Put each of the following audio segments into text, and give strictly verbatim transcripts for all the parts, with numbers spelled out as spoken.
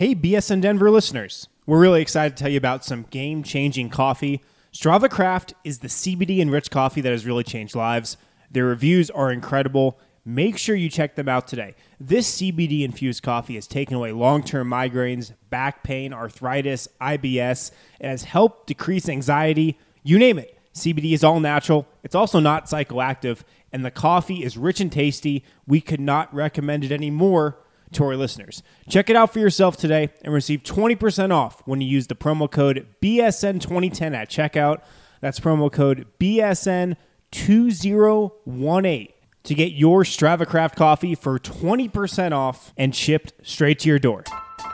Hey, B S N Denver listeners. We're really excited to tell you about some game-changing coffee. Strava Craft is the C B D-enriched coffee that has really changed lives. Their reviews are incredible. Make sure you check them out today. This C B D-infused coffee has taken away long-term migraines, back pain, arthritis, I B S. It has helped decrease anxiety. You name it. C B D is all natural. It's also not psychoactive. And the coffee is rich and tasty. We could not recommend it anymore to our listeners. Check it out for yourself today and receive twenty percent off when you use the promo code B S N twenty ten at checkout. That's promo code B S N two zero one eight to get your Strava Craft coffee for twenty percent off and shipped straight to your door.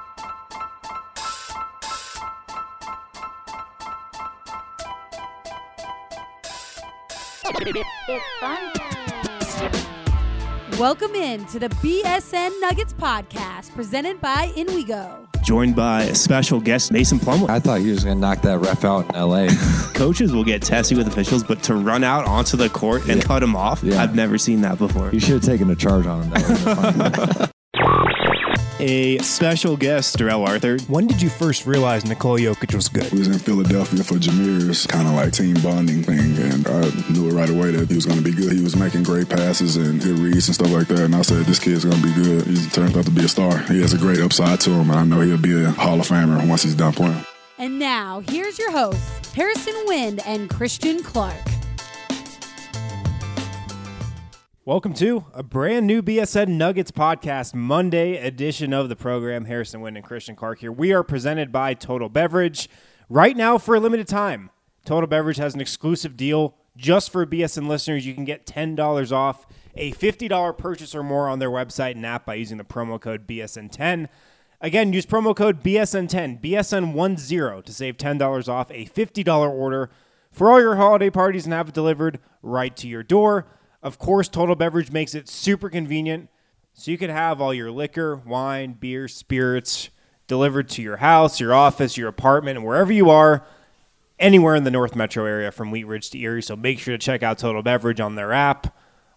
It's fun time. Welcome in to the B S N Nuggets podcast presented by InWeGo. Joined by a special guest, Mason Plumlee. I thought you were just going to knock that ref out in L A. Coaches will get testy with officials, but to run out onto the court and Yeah. cut him off, Yeah. I've never seen that before. You should have taken a charge on him. That would have been fun. A special guest, Darrell Arthur. When did you first realize Nikola Jokic was good? We was in Philadelphia for Jameer's kind of like team bonding thing, and I knew it right away that he was going to be good. He was making great passes and good reads and stuff like that, and I said, this kid's going to be good. He turned out to be a star. He has a great upside to him, and I know he'll be a Hall of Famer once he's done playing. And now, here's your hosts, Harrison Wind and Christian Clark. Welcome to a brand new B S N Nuggets podcast, Monday edition of the program. Harrison Wind and Christian Clark here. We are presented by Total Beverage. Right now, for a limited time, Total Beverage has an exclusive deal just for B S N listeners. You can get ten dollars off a fifty dollars purchase or more on their website and app by using the promo code B S N ten. Again, use promo code B S N ten, B S N ten, to save ten dollars off a fifty dollars order for all your holiday parties and have it delivered right to your door. Of course, Total Beverage makes it super convenient, so you can have all your liquor, wine, beer, spirits delivered to your house, your office, your apartment, and wherever you are, anywhere in the North Metro area from Wheat Ridge to Erie. So make sure to check out Total Beverage on their app,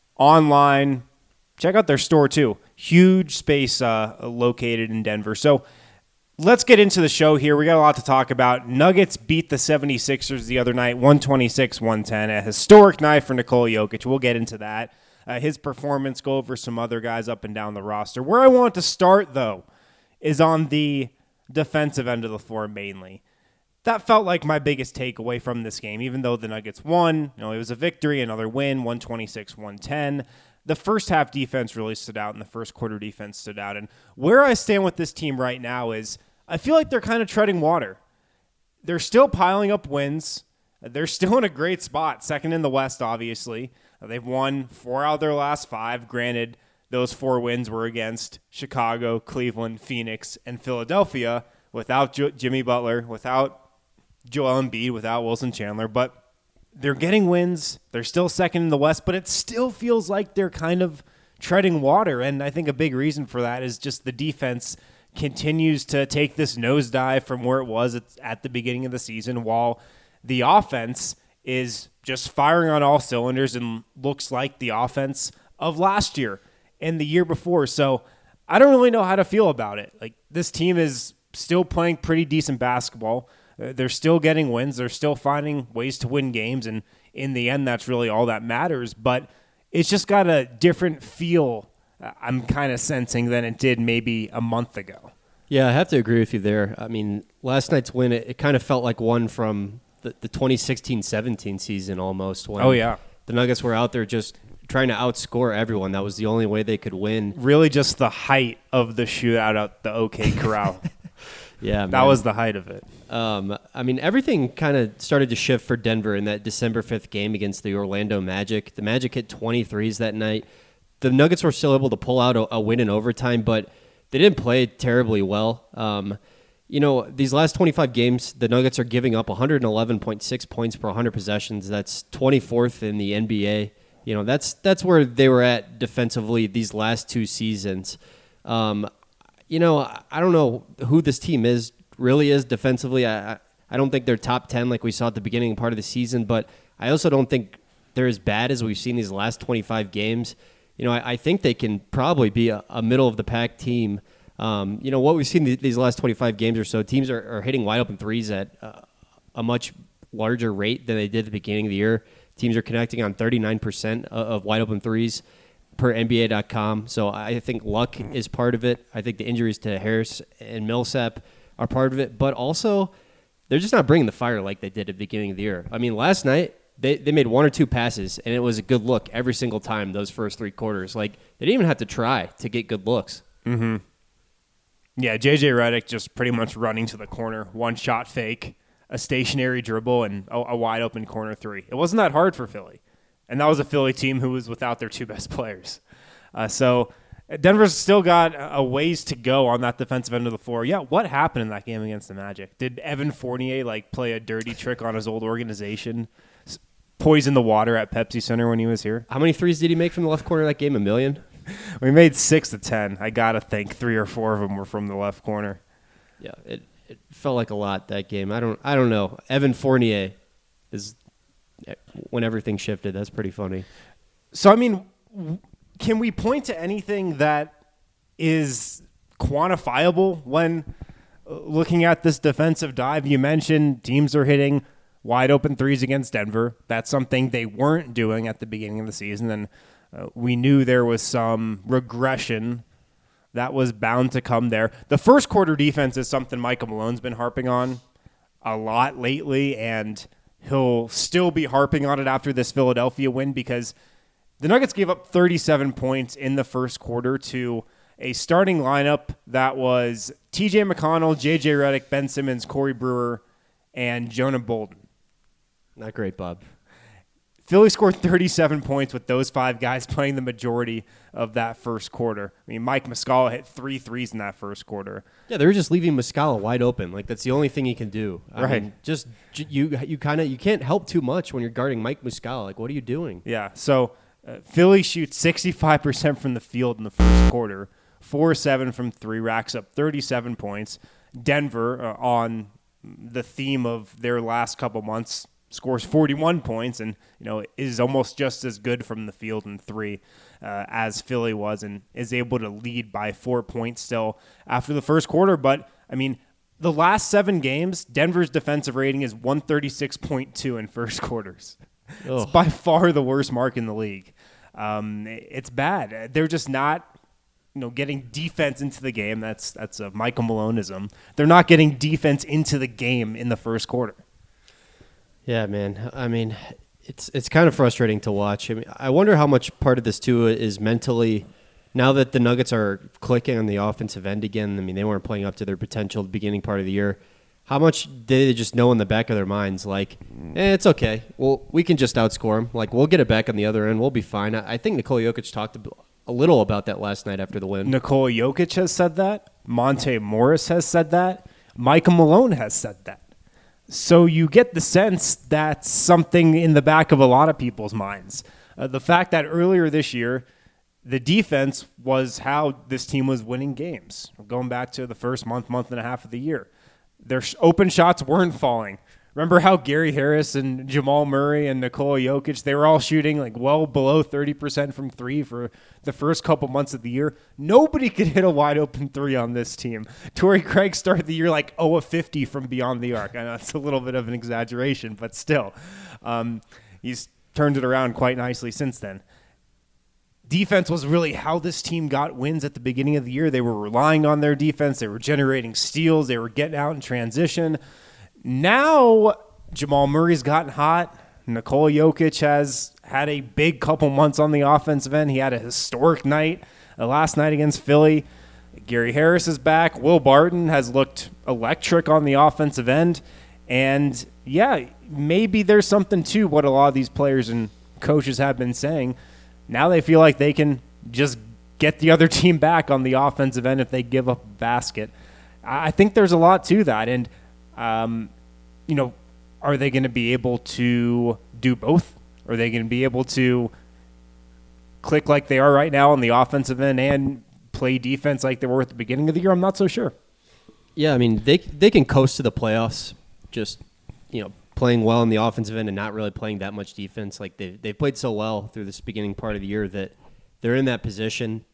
online. Check out their store, too. Huge space uh, located in Denver. So let's get into the show here. We got a lot to talk about. Nuggets beat the seventy-sixers the other night, one twenty-six to one ten. A historic night for Nikola Jokic. We'll get into that. Uh, his performance, go over some other guys up and down the roster. Where I want to start, though, is on the defensive end of the floor mainly. That felt like my biggest takeaway from this game, even though the Nuggets won. You know, it was a victory, another win, one twenty-six to one ten. The first half defense really stood out, and the first quarter defense stood out. And where I stand with this team right now is I feel like they're kind of treading water. They're still piling up wins. They're still in a great spot, second in the West, obviously. They've won four out of their last five. Granted, those four wins were against Chicago, Cleveland, Phoenix, and Philadelphia without jo- Jimmy Butler, without Joel Embiid, without Wilson Chandler. But they're getting wins. They're still second in the West, but it still feels like they're kind of treading water. And I think a big reason for that is just the defense continues to take this nosedive from where it was at, at the beginning of the season, while the offense is just firing on all cylinders and looks like the offense of last year and the year before. So I don't really know how to feel about it. Like, this team is still playing pretty decent basketball. Uh, they're still getting wins. They're still finding ways to win games. And in the end, that's really all that matters. But it's just got a different feel, I'm kind of sensing, than it did maybe a month ago. Yeah, I have to agree with you there. I mean, last night's win, it, it kind of felt like one from the, the twenty sixteen seventeen season almost. When Oh, yeah. The Nuggets were out there just trying to outscore everyone. That was the only way they could win. Really just the height of the shootout at the OK Corral. Yeah, That man. was the height of it. Um, I mean, everything kind of started to shift for Denver in that December fifth game against the Orlando Magic. The Magic hit twenty-threes that night. The Nuggets were still able to pull out a, a win in overtime, but they didn't play terribly well. Um, you know, these last twenty-five games, the Nuggets are giving up one eleven point six points per one hundred possessions. That's twenty-fourth in the N B A. You know, that's that's where they were at defensively these last two seasons. Um, you know, I don't know who this team is really is defensively. I I don't think they're top ten like we saw at the beginning part of the season, but I also don't think they're as bad as we've seen these last twenty-five games. You know, I, I think they can probably be a, a middle of the pack team Um, you know, what we've seen th- these last twenty-five games or so, teams are, are hitting wide open threes at uh, a much larger rate than they did at the beginning of the year. Teams are connecting on thirty-nine percent of, of wide open threes per N B A dot com. So I think luck is part of it. I think the injuries to Harris and Millsap are part of it. But also, they're just not bringing the fire like they did at the beginning of the year. I mean, last night, they, they made one or two passes, and it was a good look every single time those first three quarters. Like, they didn't even have to try to get good looks. Mm-hmm. Yeah, J J Redick just pretty much running to the corner, one shot fake, a stationary dribble, and a, a wide open corner three. It wasn't that hard for Philly. And that was a Philly team who was without their two best players. Uh, so Denver's still got a ways to go on that defensive end of the floor. Yeah, what happened in that game against the Magic? Did Evan Fournier like play a dirty trick on his old organization, poison the water at Pepsi Center when he was here? How many threes did he make from the left corner of that game? A million? We made six to ten. I got to think three or four of them were from the left corner. Yeah, it, it felt like a lot that game. I don't I don't know. Evan Fournier is when everything shifted. That's pretty funny. So, I mean, can we point to anything that is quantifiable when looking at this defensive dive? You mentioned teams are hitting wide open threes against Denver. That's something they weren't doing at the beginning of the season, and uh, we knew there was some regression that was bound to come there. The first quarter defense is something Michael Malone's been harping on a lot lately, and he'll still be harping on it after this Philadelphia win because the Nuggets gave up thirty-seven points in the first quarter to a starting lineup that was T J McConnell, J J Redick, Ben Simmons, Corey Brewer, and Jonah Bolden. Not great, Bob. Philly scored thirty-seven points with those five guys playing the majority of that first quarter. I mean, Mike Muscala hit three threes in that first quarter. Yeah, they were just leaving Muscala wide open. Like, that's the only thing he can do. I right. mean, just you you kind of you can't help too much when you're guarding Mike Muscala. Like, what are you doing? Yeah. So uh, Philly shoots sixty-five percent from the field in the first quarter, four seven from three, racks up thirty-seven points. Denver, uh, on the theme of their last couple months, scores forty-one points and, you know, is almost just as good from the field in three uh, as Philly was, and is able to lead by four points still after the first quarter. But, I mean, the last seven games, Denver's defensive rating is one thirty-six point two in first quarters. Ugh. It's by far the worst mark in the league. Um, it's bad. They're just not, you know, getting defense into the game. That's that's a Michael Maloneism. They're not getting defense into the game in the first quarter. Yeah, man. I mean, it's it's kind of frustrating to watch. I mean, I wonder how much part of this too is mentally. Now that the Nuggets are clicking on the offensive end again, I mean, they weren't playing up to their potential at the beginning part of the year. How much did they just know in the back of their minds, like, eh, it's okay. Well, we can just outscore them. Like, we'll get it back on the other end. We'll be fine. I, I think Nikola Jokic talked a little about that last night after the win. Nikola Jokic has said that. Monte Morris has said that. Michael Malone has said that. So you get the sense that's something in the back of a lot of people's minds. Uh, the fact that earlier this year, the defense was how this team was winning games. Going back to the first month, month and a half of the year. Their open shots weren't falling. Remember how Gary Harris and Jamal Murray and Nikola Jokic, they were all shooting like well below thirty percent from three for the first couple months of the year? Nobody could hit a wide open three on this team. Torrey Craig started the year like oh of fifty from beyond the arc. I know it's a little bit of an exaggeration, but still. Um, he's turned it around quite nicely since then. Defense was really how this team got wins at the beginning of the year. They were relying on their defense. They were generating steals. They were getting out in transition. Now, Jamal Murray's gotten hot. Nikola Jokic has had a big couple months on the offensive end. He had a historic night uh, last night against Philly. Gary Harris is back. Will Barton has looked electric on the offensive end. And, yeah, maybe there's something to what a lot of these players and coaches have been saying. Now they feel like they can just get the other team back on the offensive end if they give up a basket. I think there's a lot to that. And, um, you know, are they going to be able to do both? Are they going to be able to click like they are right now on the offensive end and play defense like they were at the beginning of the year? I'm not so sure. Yeah, I mean, they they can coast to the playoffs just, you know, playing well on the offensive end and not really playing that much defense. Like they they played so well through this beginning part of the year that they're in that position.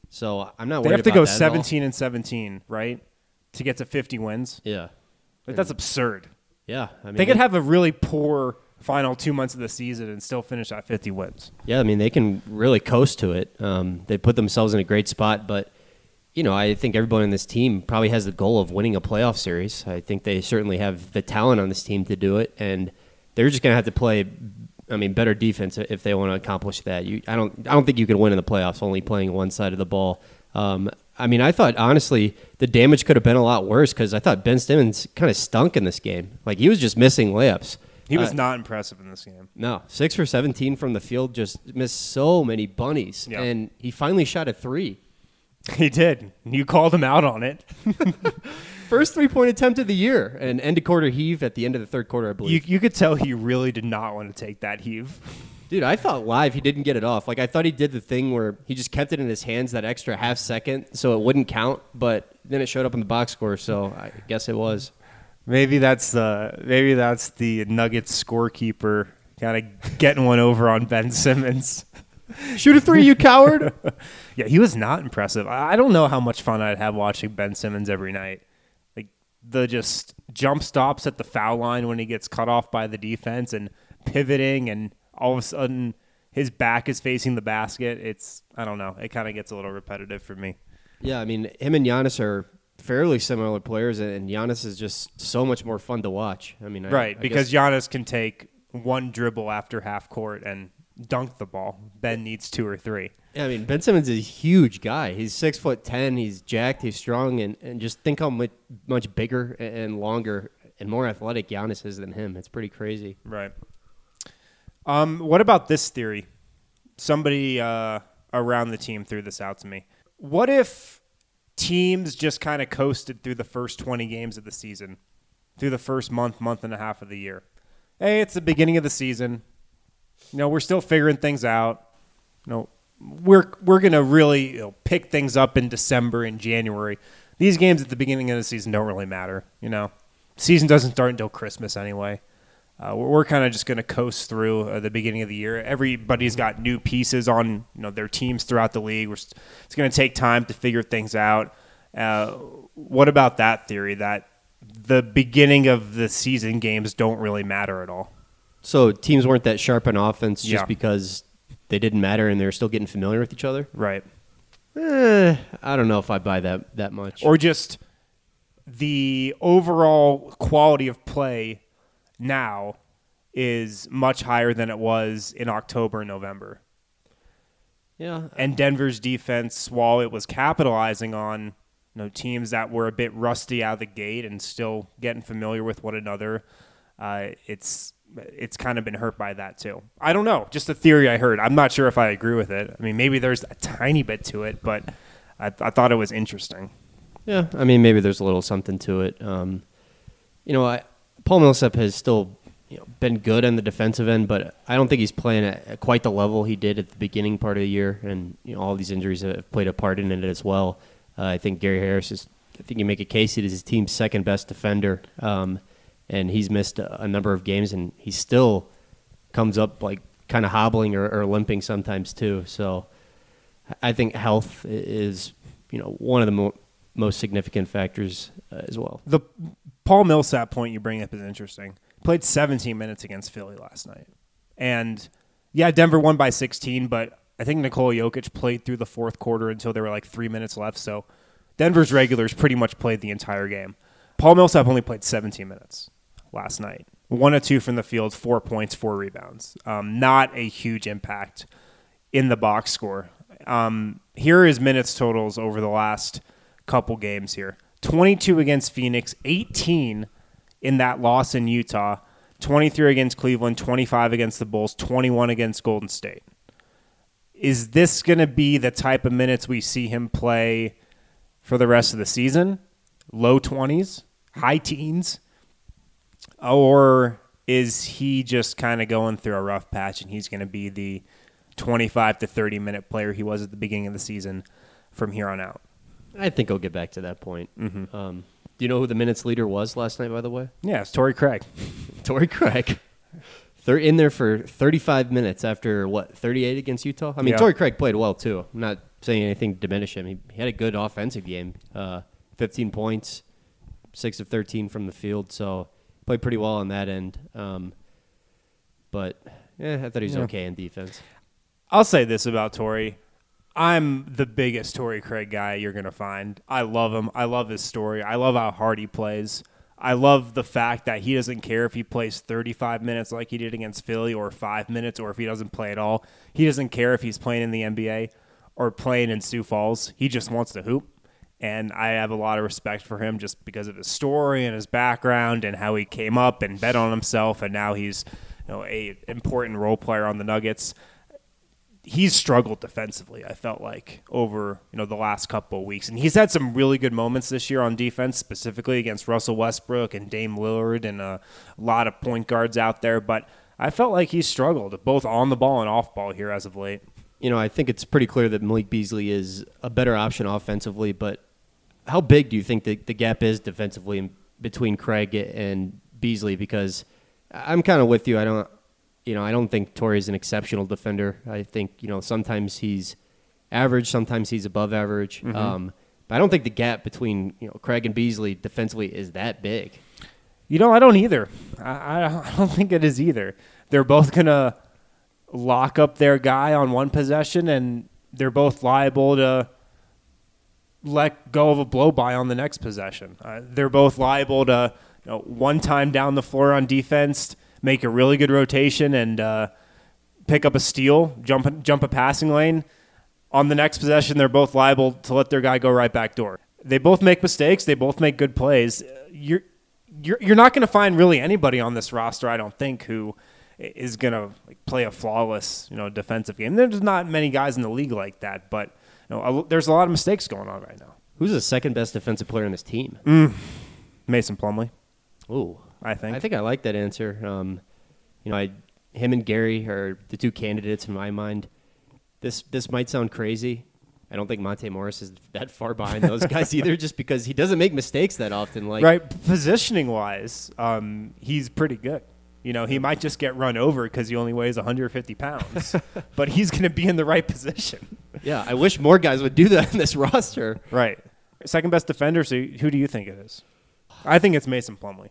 So I'm not They worried have to about go that at all. seventeen and seventeen, right, to get to fifty wins. Yeah. Like, that's absurd. Yeah. I mean, They could have a really poor final two months of the season and still finish at fifty wins. Yeah, I mean, they can really coast to it. Um, they put themselves in a great spot, but, you know, I think everyone in this team probably has the goal of winning a playoff series. I think they certainly have the talent on this team to do it, and they're just going to have to play, I mean, better defense if they want to accomplish that. You, I don't I don't think you can win in the playoffs only playing one side of the ball. Um, I mean, I thought, honestly, the damage could have been a lot worse because I thought Ben Simmons kind of stunk in this game. Like, he was just missing layups. He was Uh, not impressive in this game. No, six for seventeen from the field, just missed so many bunnies. Yeah. And he finally shot a three. He did. You called him out on it. First three-point attempt of the year. And end of quarter heave at the end of the third quarter, I You, believe. you could tell he really did not want to take that heave. Dude, I thought live he didn't get it off. Like, I thought he did the thing where he just kept it in his hands that extra half second so it wouldn't count, but then it showed up in the box score, so I guess it was. Maybe that's uh, maybe that's the Nuggets scorekeeper kind of getting one over on Ben Simmons. Shoot a three, you coward! Yeah, he was not impressive. I I don't know how much fun I'd have watching Ben Simmons every night. Like the just jump stops at the foul line when he gets cut off by the defense and pivoting, and all of a sudden his back is facing the basket. It's I don't know. It kind of gets a little repetitive for me. Yeah, I mean, him and Giannis are fairly similar players, and Giannis is just so much more fun to watch. I mean, I, Right, I because guess, Giannis can take one dribble after half court and dunk the ball. Ben needs two or three. yeah, I mean, Ben Simmons is a huge guy. He's six foot ten. He's jacked. He's strong, and, and just think how much much bigger and longer and more athletic Giannis is than him. It's pretty crazy. Right. Um, what about this theory? Somebody uh, around the team threw this out to me. What if teams just kind of coasted through the first twenty games of the season, through the first month, month and a half of the year? Hey, it's the beginning of the season. You know, we're still figuring things out. You know, we're we're gonna really you know, pick things up in December and January. These games at the beginning of the season don't really matter. You know, season doesn't start until Christmas anyway. Uh, we're we're kind of just going to coast through uh, the beginning of the year. Everybody's got new pieces on you know their teams throughout the league. We're st- it's going to take time to figure things out. Uh, what about that theory that the beginning of the season games don't really matter at all? So teams weren't that sharp on offense just Yeah. because they didn't matter and they were still getting familiar with each other? Right. Eh, I don't know if I buy that that much. Or just the overall quality of play now is much higher than it was in October and November. yeah, And Denver's defense, while it was capitalizing on you know, teams that were a bit rusty out of the gate and still getting familiar with one another, uh, it's it's kind of been hurt by that too. I don't know. Just a theory I heard. I'm not sure if I agree with it. I mean, maybe there's a tiny bit to it, but I, I thought it was interesting. yeah. I mean, maybe there's a little something to it. Um, you know, I, Paul Millsap has still you know, been good on the defensive end, but I don't think he's playing at, at quite the level he did at the beginning part of the year, and you know, all these injuries have played a part in it as well. Uh, I think Gary Harris is. I think you make a case he is his team's second best defender, um, and he's missed a, a number of games, and he still comes up like kind of hobbling or, or limping sometimes too. So I think health is you know one of the mo- most significant factors uh, as well. The Paul Millsap point you bring up is interesting. Played seventeen minutes against Philly last night. And, yeah, Denver won by sixteen, but I think Nikola Jokic played through the fourth quarter until there were like three minutes left. So Denver's regulars pretty much played the entire game. Paul Millsap only played seventeen minutes last night. One of two from the field, four points, four rebounds. Um, not a huge impact in the box score. Um, here are his minutes totals over the last couple games here. twenty-two against Phoenix, eighteen in that loss in Utah, twenty-three against Cleveland, twenty-five against the Bulls, twenty-one against Golden State. Is this going to be the type of minutes we see him play for the rest of the season? Low twenties, high teens? Or is he just kind of going through a rough patch and he's going to be the twenty-five to thirty minute player he was at the beginning of the season from here on out? I think he'll get back to that point. Mm-hmm. Um, do you know who the minutes leader was last night, by the way? Yeah, it's Torrey Craig. Torrey Craig. They're in there for thirty-five minutes after, what, thirty-eight against Utah? I mean, Yeah. Torrey Craig played well, too. I'm not saying anything to diminish him. He, he had a good offensive game. Uh, fifteen points, six of thirteen from the field, so played pretty well on that end. Um, but, yeah, I thought he was Yeah. okay in defense. I'll say this about Torrey. I'm the biggest Torrey Craig guy you're going to find. I love him. I love his story. I love how hard he plays. I love the fact that he doesn't care if he plays thirty-five minutes like he did against Philly or five minutes or if he doesn't play at all. He doesn't care if he's playing in the N B A or playing in Sioux Falls. He just wants to hoop. And I have a lot of respect for him just because of his story and his background and how he came up and bet on himself, and now he's, you know, a important role player on the Nuggets. He's struggled defensively, I felt like, over, you know, the last couple of weeks. And he's had some really good moments this year on defense, specifically against Russell Westbrook and Dame Lillard and a lot of point guards out there. But I felt like he's struggled, both on the ball and off ball here as of late. You know, I think it's pretty clear that Malik Beasley is a better option offensively, but how big do you think the, the gap is defensively in, between Craig and Beasley? Because I'm kind of with you. I don't, you know, I don't think Torrey is an exceptional defender. I think, you know, sometimes he's average, sometimes he's above average. Mm-hmm. Um, but I don't think the gap between, you know, Craig and Beasley defensively is that big. You know, I don't either. I, I don't think it is either. They're both going to lock up their guy on one possession, and they're both liable to let go of a blow-by on the next possession. Uh, they're both liable to, you know, one time down the floor on defense, make a really good rotation and uh, pick up a steal, jump jump a passing lane. On the next possession, they're both liable to let their guy go right back door. They both make mistakes. They both make good plays. You're you're you're not going to find really anybody on this roster, I don't think, who is going to like, play a flawless, you know, defensive game. There's not many guys in the league like that, but you know, a, there's a lot of mistakes going on right now. Who's the second best defensive player on this team? Mm, Mason Plumlee. Ooh, I think. I think I like that answer. Um, you know, I, him and Gary are the two candidates in my mind. This this might sound crazy. I don't think Monte Morris is that far behind those guys either, just because he doesn't make mistakes that often. Like right, positioning wise, um, he's pretty good. You know, he might just get run over because he only weighs one hundred fifty pounds, but he's going to be in the right position. Yeah, I wish more guys would do that in this roster. Right. Second best defender, so who do you think it is? I think it's Mason Plumlee.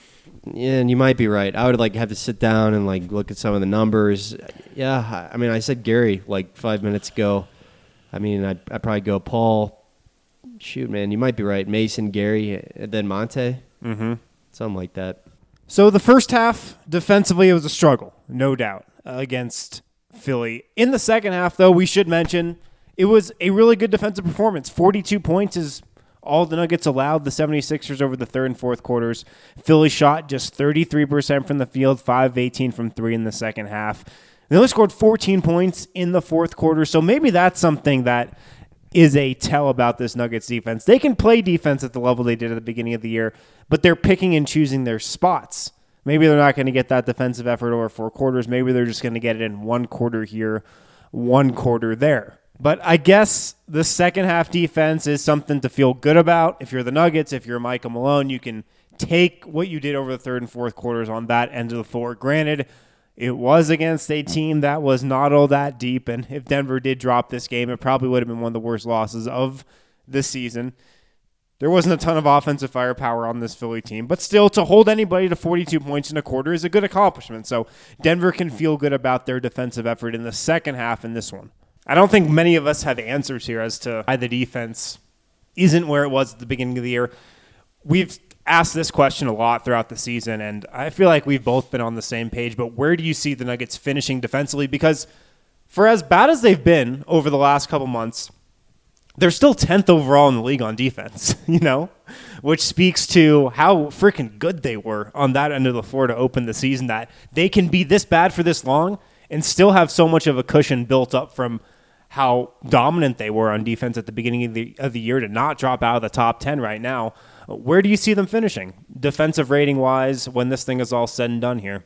Yeah, and you might be right. I would like have to sit down and like look at some of the numbers. Yeah, I mean, I said Gary like five minutes ago. I mean, I'd, I'd probably go Paul. Shoot, man, you might be right. Mason, Gary, and then Monte. Mm-hmm. Something like that. So the first half, defensively, it was a struggle, no doubt, uh, against Philly. In the second half, though, we should mention it was a really good defensive performance. forty-two points is all the Nuggets allowed the 76ers over the third and fourth quarters. Philly shot just thirty-three percent from the field, five of eighteen from three in the second half. They only scored fourteen points in the fourth quarter, so maybe that's something that is a tell about this Nuggets defense. They can play defense at the level they did at the beginning of the year, but they're picking and choosing their spots. Maybe they're not going to get that defensive effort over four quarters. Maybe they're just going to get it in one quarter here, one quarter there. But I guess the second half defense is something to feel good about. If you're the Nuggets, if you're Michael Malone, you can take what you did over the third and fourth quarters on that end of the floor. Granted, it was against a team that was not all that deep, and if Denver did drop this game, it probably would have been one of the worst losses of the season. There wasn't a ton of offensive firepower on this Philly team, but still, to hold anybody to forty-two points in a quarter is a good accomplishment. So Denver can feel good about their defensive effort in the second half in this one. I don't think many of us have answers here as to why the defense isn't where it was at the beginning of the year. We've asked this question a lot throughout the season, and I feel like we've both been on the same page, but where do you see the Nuggets finishing defensively? Because for as bad as they've been over the last couple months, they're still tenth overall in the league on defense, you know, which speaks to how freaking good they were on that end of the floor to open the season, that they can be this bad for this long and still have so much of a cushion built up from how dominant they were on defense at the beginning of the, of the year to not drop out of the top ten right now. Where do you see them finishing, defensive rating-wise, when this thing is all said and done here?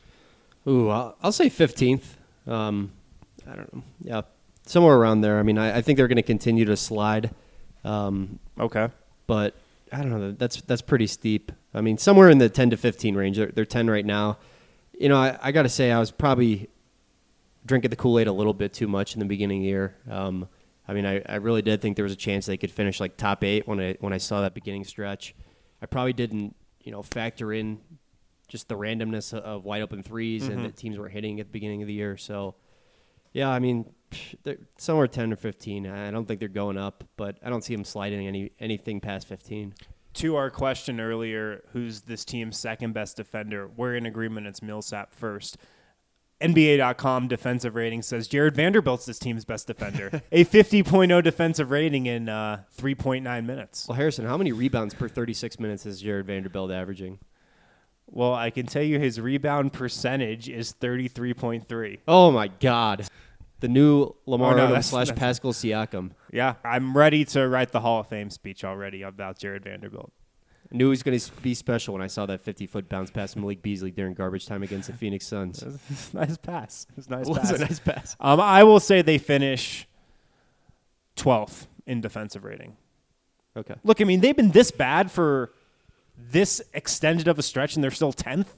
Ooh, I'll, I'll say fifteenth. Um, I don't know. Yeah, somewhere around there. I mean, I, I think they're going to continue to slide. Um, Okay. But I don't know. That's that's pretty steep. I mean, somewhere in the ten to fifteen range. They're, they're ten right now. you know, I, I got to say I was probably drinking the Kool-Aid a little bit too much in the beginning of the year. Um, I mean, I, I really did think there was a chance they could finish like top eight when I when I saw that beginning stretch. I probably didn't, you know, factor in just the randomness of, of wide open threes mm-hmm. and that teams weren't hitting at the beginning of the year. So, yeah, I mean, somewhere ten or fifteen. I don't think they're going up, but I don't see them sliding any anything past fifteen. To our question earlier, who's this team's second best defender? We're in agreement it's Millsap first. N B A dot com defensive rating says Jared Vanderbilt's this team's best defender. A fifty point oh defensive rating in uh, three point nine minutes. Well, Harrison, how many rebounds per thirty-six minutes is Jared Vanderbilt averaging? Well, I can tell you his rebound percentage is thirty-three point three. Oh, my God. The new Lamar oh, no, Odom slash Pascal Siakam. Yeah, I'm ready to write the Hall of Fame speech already about Jared Vanderbilt. I knew he was going to be special when I saw that fifty-foot bounce past Malik Beasley during garbage time against the Phoenix Suns. It was a nice pass. It was a nice it pass. was a nice pass. Um, I will say they finish twelfth in defensive rating. Okay. Look, I mean, they've been this bad for this extended of a stretch, and they're still tenth.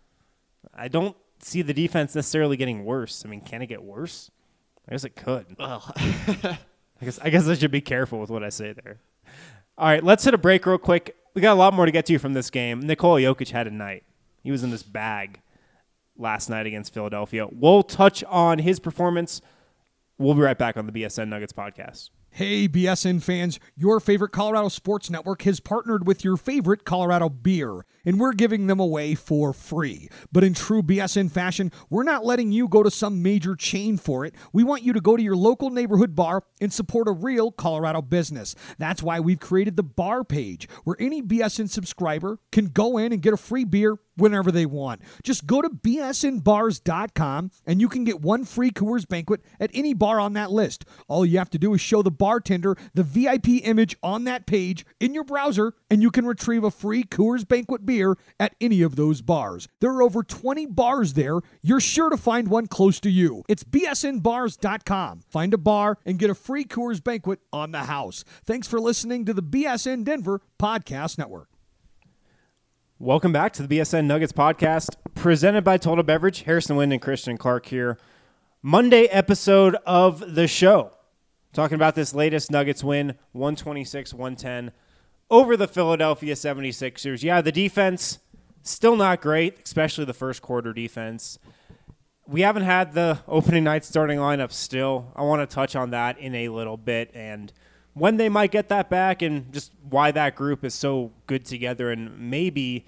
I don't see the defense necessarily getting worse. I mean, can it get worse? I guess it could. Well, I guess I guess I should be careful with what I say there. All right, let's hit a break real quick. We got a lot more to get to from this game. Nikola Jokic had a night. He was in this bag last night against Philadelphia. We'll touch on his performance. We'll be right back on the B S N Nuggets podcast. Hey, B S N fans, your favorite Colorado Sports Network has partnered with your favorite Colorado beer, and we're giving them away for free. But in true B S N fashion, we're not letting you go to some major chain for it. We want you to go to your local neighborhood bar and support a real Colorado business. That's why we've created the bar page, where any B S N subscriber can go in and get a free beer whenever they want. Just go to B S N bars dot com and you can get one free Coors Banquet at any bar on that list. All you have to do is show the bartender the V I P image on that page in your browser, and you can retrieve a free Coors Banquet beer at any of those bars. There are over twenty bars there. You're sure to find one close to you. It's B S N bars dot com. Find a bar and get a free Coors Banquet on the house. Thanks for listening to the B S N Denver Podcast Network. Welcome back to the B S N Nuggets podcast, presented by Total Beverage. Harrison Wind and Christian Clark here. Monday episode of the show. Talking about this latest Nuggets win, one twenty-six one ten over the Philadelphia seventy-sixers. Yeah, the defense, still not great, especially the first quarter defense. We haven't had the opening night starting lineup still. I want to touch on that in a little bit and when they might get that back and just why that group is so good together. And maybe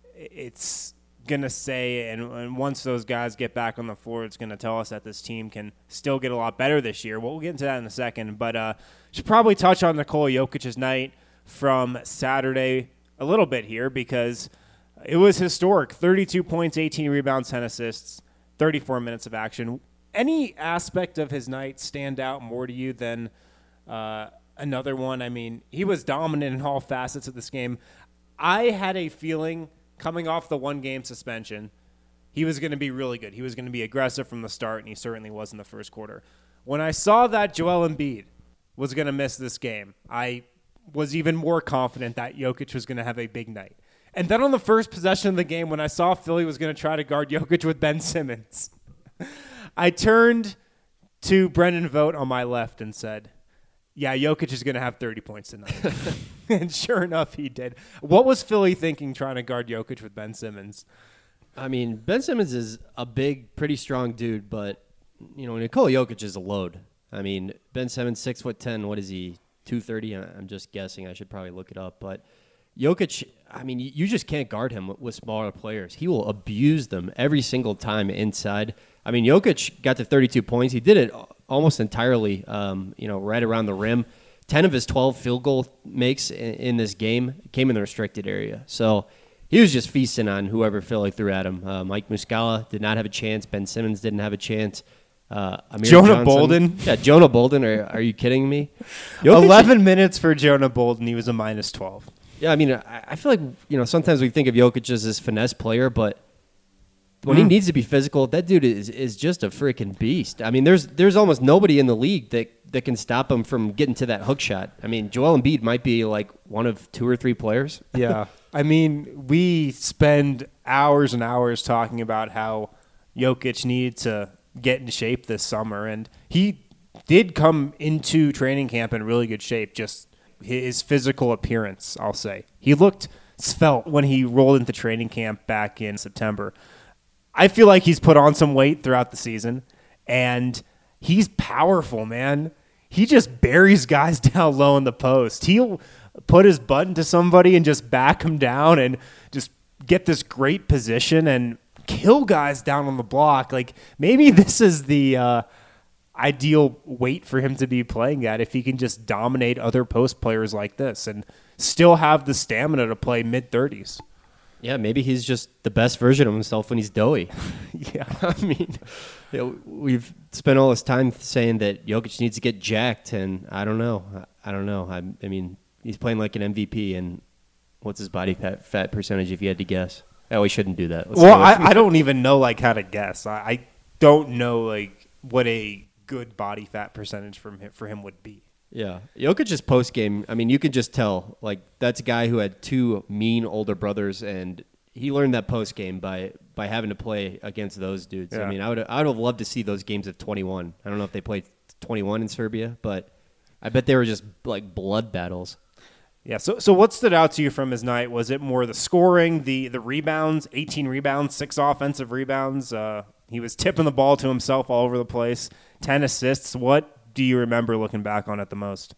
it's going to say, and, and once those guys get back on the floor, it's going to tell us that this team can still get a lot better this year. Well, we'll get into that in a second. But uh, should probably touch on Nikola Jokic's night from Saturday a little bit here because it was historic. thirty-two points, eighteen rebounds, ten assists, thirty-four minutes of action. Any aspect of his night stand out more to you than uh, – another one? I mean, he was dominant in all facets of this game. I had a feeling coming off the one-game suspension, he was going to be really good. He was going to be aggressive from the start, and he certainly was in the first quarter. When I saw that Joel Embiid was going to miss this game, I was even more confident that Jokic was going to have a big night. And then on the first possession of the game, when I saw Philly was going to try to guard Jokic with Ben Simmons, I turned to Brendan Vogt on my left and said, yeah, Jokic is going to have thirty points tonight. And sure enough, he did. What was Philly thinking trying to guard Jokic with Ben Simmons? I mean, Ben Simmons is a big, pretty strong dude, but, you know, Nikola Jokic is a load. I mean, Ben Simmons, six foot ten, what is he, two thirty? I'm just guessing. I should probably look it up. But Jokic, I mean, you just can't guard him with smaller players. He will abuse them every single time inside. I mean, Jokic got to thirty-two points. He did it almost entirely, um, you know, right around the rim. ten of his twelve field goal makes in, in this game came in the restricted area. So he was just feasting on whoever Philly threw at him. Uh, Mike Muscala did not have a chance. Ben Simmons didn't have a chance. Uh, Amir Jonah Johnson, Bolden. Yeah, Jonah Bolden. Are, are you kidding me? Jokic, eleven minutes for Jonah Bolden. He was a minus twelve. Yeah, I mean, I, I feel like, you know, sometimes we think of Jokic as this finesse player, but when mm. he needs to be physical, that dude is is just a freaking beast. I mean, there's there's almost nobody in the league that, that can stop him from getting to that hook shot. I mean, Joel Embiid might be like one of two or three players. Yeah. I mean, we spend hours and hours talking about how Jokic needed to get in shape this summer, and he did come into training camp in really good shape. Just his physical appearance, I'll say. He looked svelte when he rolled into training camp back in September. I feel like he's put on some weight throughout the season, and he's powerful, man. He just buries guys down low in the post. He'll put his butt into somebody and just back him down and just get this great position and kill guys down on the block. Like, maybe this is the uh, ideal weight for him to be playing at if he can just dominate other post players like this and still have the stamina to play mid-thirties. Yeah, maybe he's just the best version of himself when he's doughy. Yeah. I mean, you know, we've spent all this time saying that Jokic needs to get jacked, and I don't know. I don't know. I, I mean, he's playing like an M V P, and what's his body fat, fat percentage if you had to guess? Oh, we shouldn't do that. Let's well, I, I don't even know like how to guess. I, I don't know like what a good body fat percentage from him, for him would be. Yeah. Jokic's post game, I mean, you could just tell, like, that's a guy who had two mean older brothers, and he learned that post game by by having to play against those dudes. Yeah. I mean, I would I would have loved to see those games of twenty-one. I don't know if they played twenty-one in Serbia, but I bet they were just like blood battles. Yeah, so so what stood out to you from his night? Was it more the scoring, the the rebounds, eighteen rebounds, six offensive rebounds? Uh, he was tipping the ball to himself all over the place, ten assists. What do you remember looking back on it the most?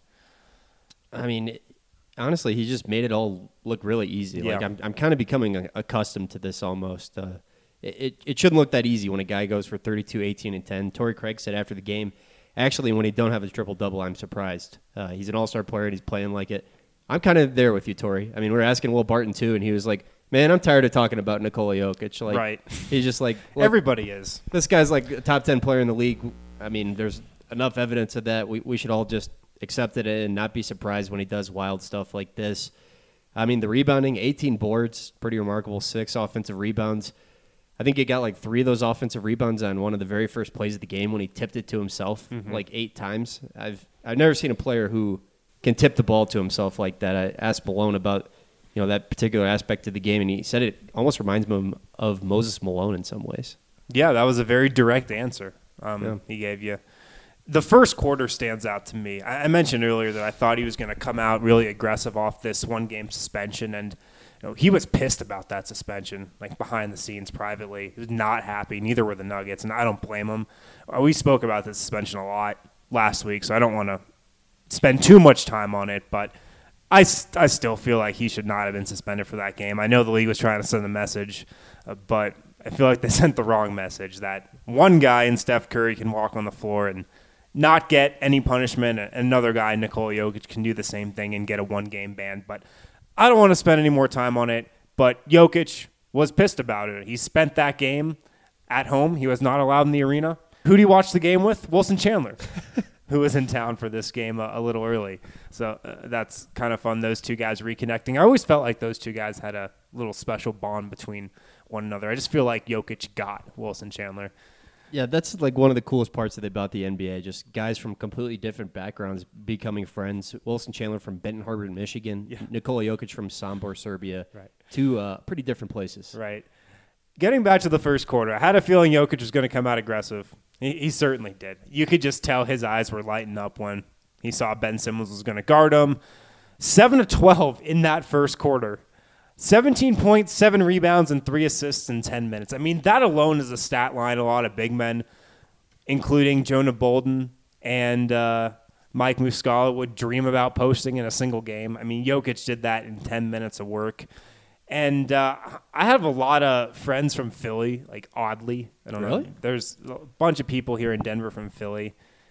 I mean, honestly, he just made it all look really easy. Yeah. Like I'm, I'm kind of becoming accustomed to this almost. Uh, it, it shouldn't look that easy when a guy goes for thirty-two, eighteen, and ten. Torrey Craig said after the game, actually, when he don't have his triple-double, I'm surprised. Uh, he's an all-star player, and he's playing like it. I'm kind of there with you, Torrey. I mean, we were asking Will Barton, too, and he was like, man, I'm tired of talking about Nikola Jokic. Like, Right. He's just like, look, Everybody is. this guy's like a top ten player in the league. I mean, there's enough evidence of that. We we should all just accept it and not be surprised when he does wild stuff like this. I mean, the rebounding, eighteen boards, pretty remarkable, six offensive rebounds. I think he got like three of those offensive rebounds on one of the very first plays of the game when he tipped it to himself Mm-hmm. like eight times. I've I've never seen a player who can tip the ball to himself like that. I asked Malone about you know that particular aspect of the game, and he said it almost reminds him of Moses Malone in some ways. Yeah, that was a very direct answer um, Yeah. he gave you. The first quarter stands out to me. I I mentioned earlier that I thought he was going to come out really aggressive off this one-game suspension, and you know, he was pissed about that suspension, like behind the scenes privately. He was not happy. Neither were the Nuggets, and I don't blame him. Uh, We spoke about this suspension a lot last week, so I don't want to spend too much time on it, but I, st- I still feel like he should not have been suspended for that game. I know the league was trying to send a message, uh, but I feel like they sent the wrong message that one guy in Steph Curry can walk on the floor and not get any punishment, and another guy, Nikola Jokic, can do the same thing and get a one-game ban. But I don't want to spend any more time on it, but Jokic was pissed about it. He spent that game at home. He was not allowed in the arena. Who do you watch the game with? Wilson Chandler, who was in town for this game a, a little early. So uh, that's kind of fun, those two guys reconnecting. I always felt like those two guys had a little special bond between one another. I just feel like Jokic got Wilson Chandler. Yeah, that's like one of the coolest parts of the, about the N B A. Just guys from completely different backgrounds becoming friends. Wilson Chandler from Benton Harbor, Michigan. Yeah. Nikola Jokic from Sombor, Serbia. Right. Two uh, pretty different places. Right. Getting back to the first quarter, I had a feeling Jokic was going to come out aggressive. He, he certainly did. You could just tell his eyes were lighting up when he saw Ben Simmons was going to guard him. seven to twelve in that first quarter. seventeen points, seven rebounds, and three assists in ten minutes. I mean, that alone is a stat line a lot of big men, including Jonah Bolden and uh, Mike Muscala, would dream about posting in a single game. I mean, Jokic did that in ten minutes of work. And uh, I have a lot of friends from Philly, like oddly. I don't Really? know. There's a bunch of people here in Denver from Philly.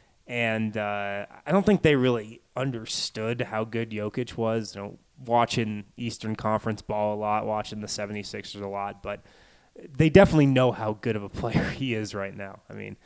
And uh, I don't think they really understood how good Jokic was. You know, watching Eastern Conference ball a lot, watching the seventy-sixers a lot. But they definitely know how good of a player he is right now. I mean,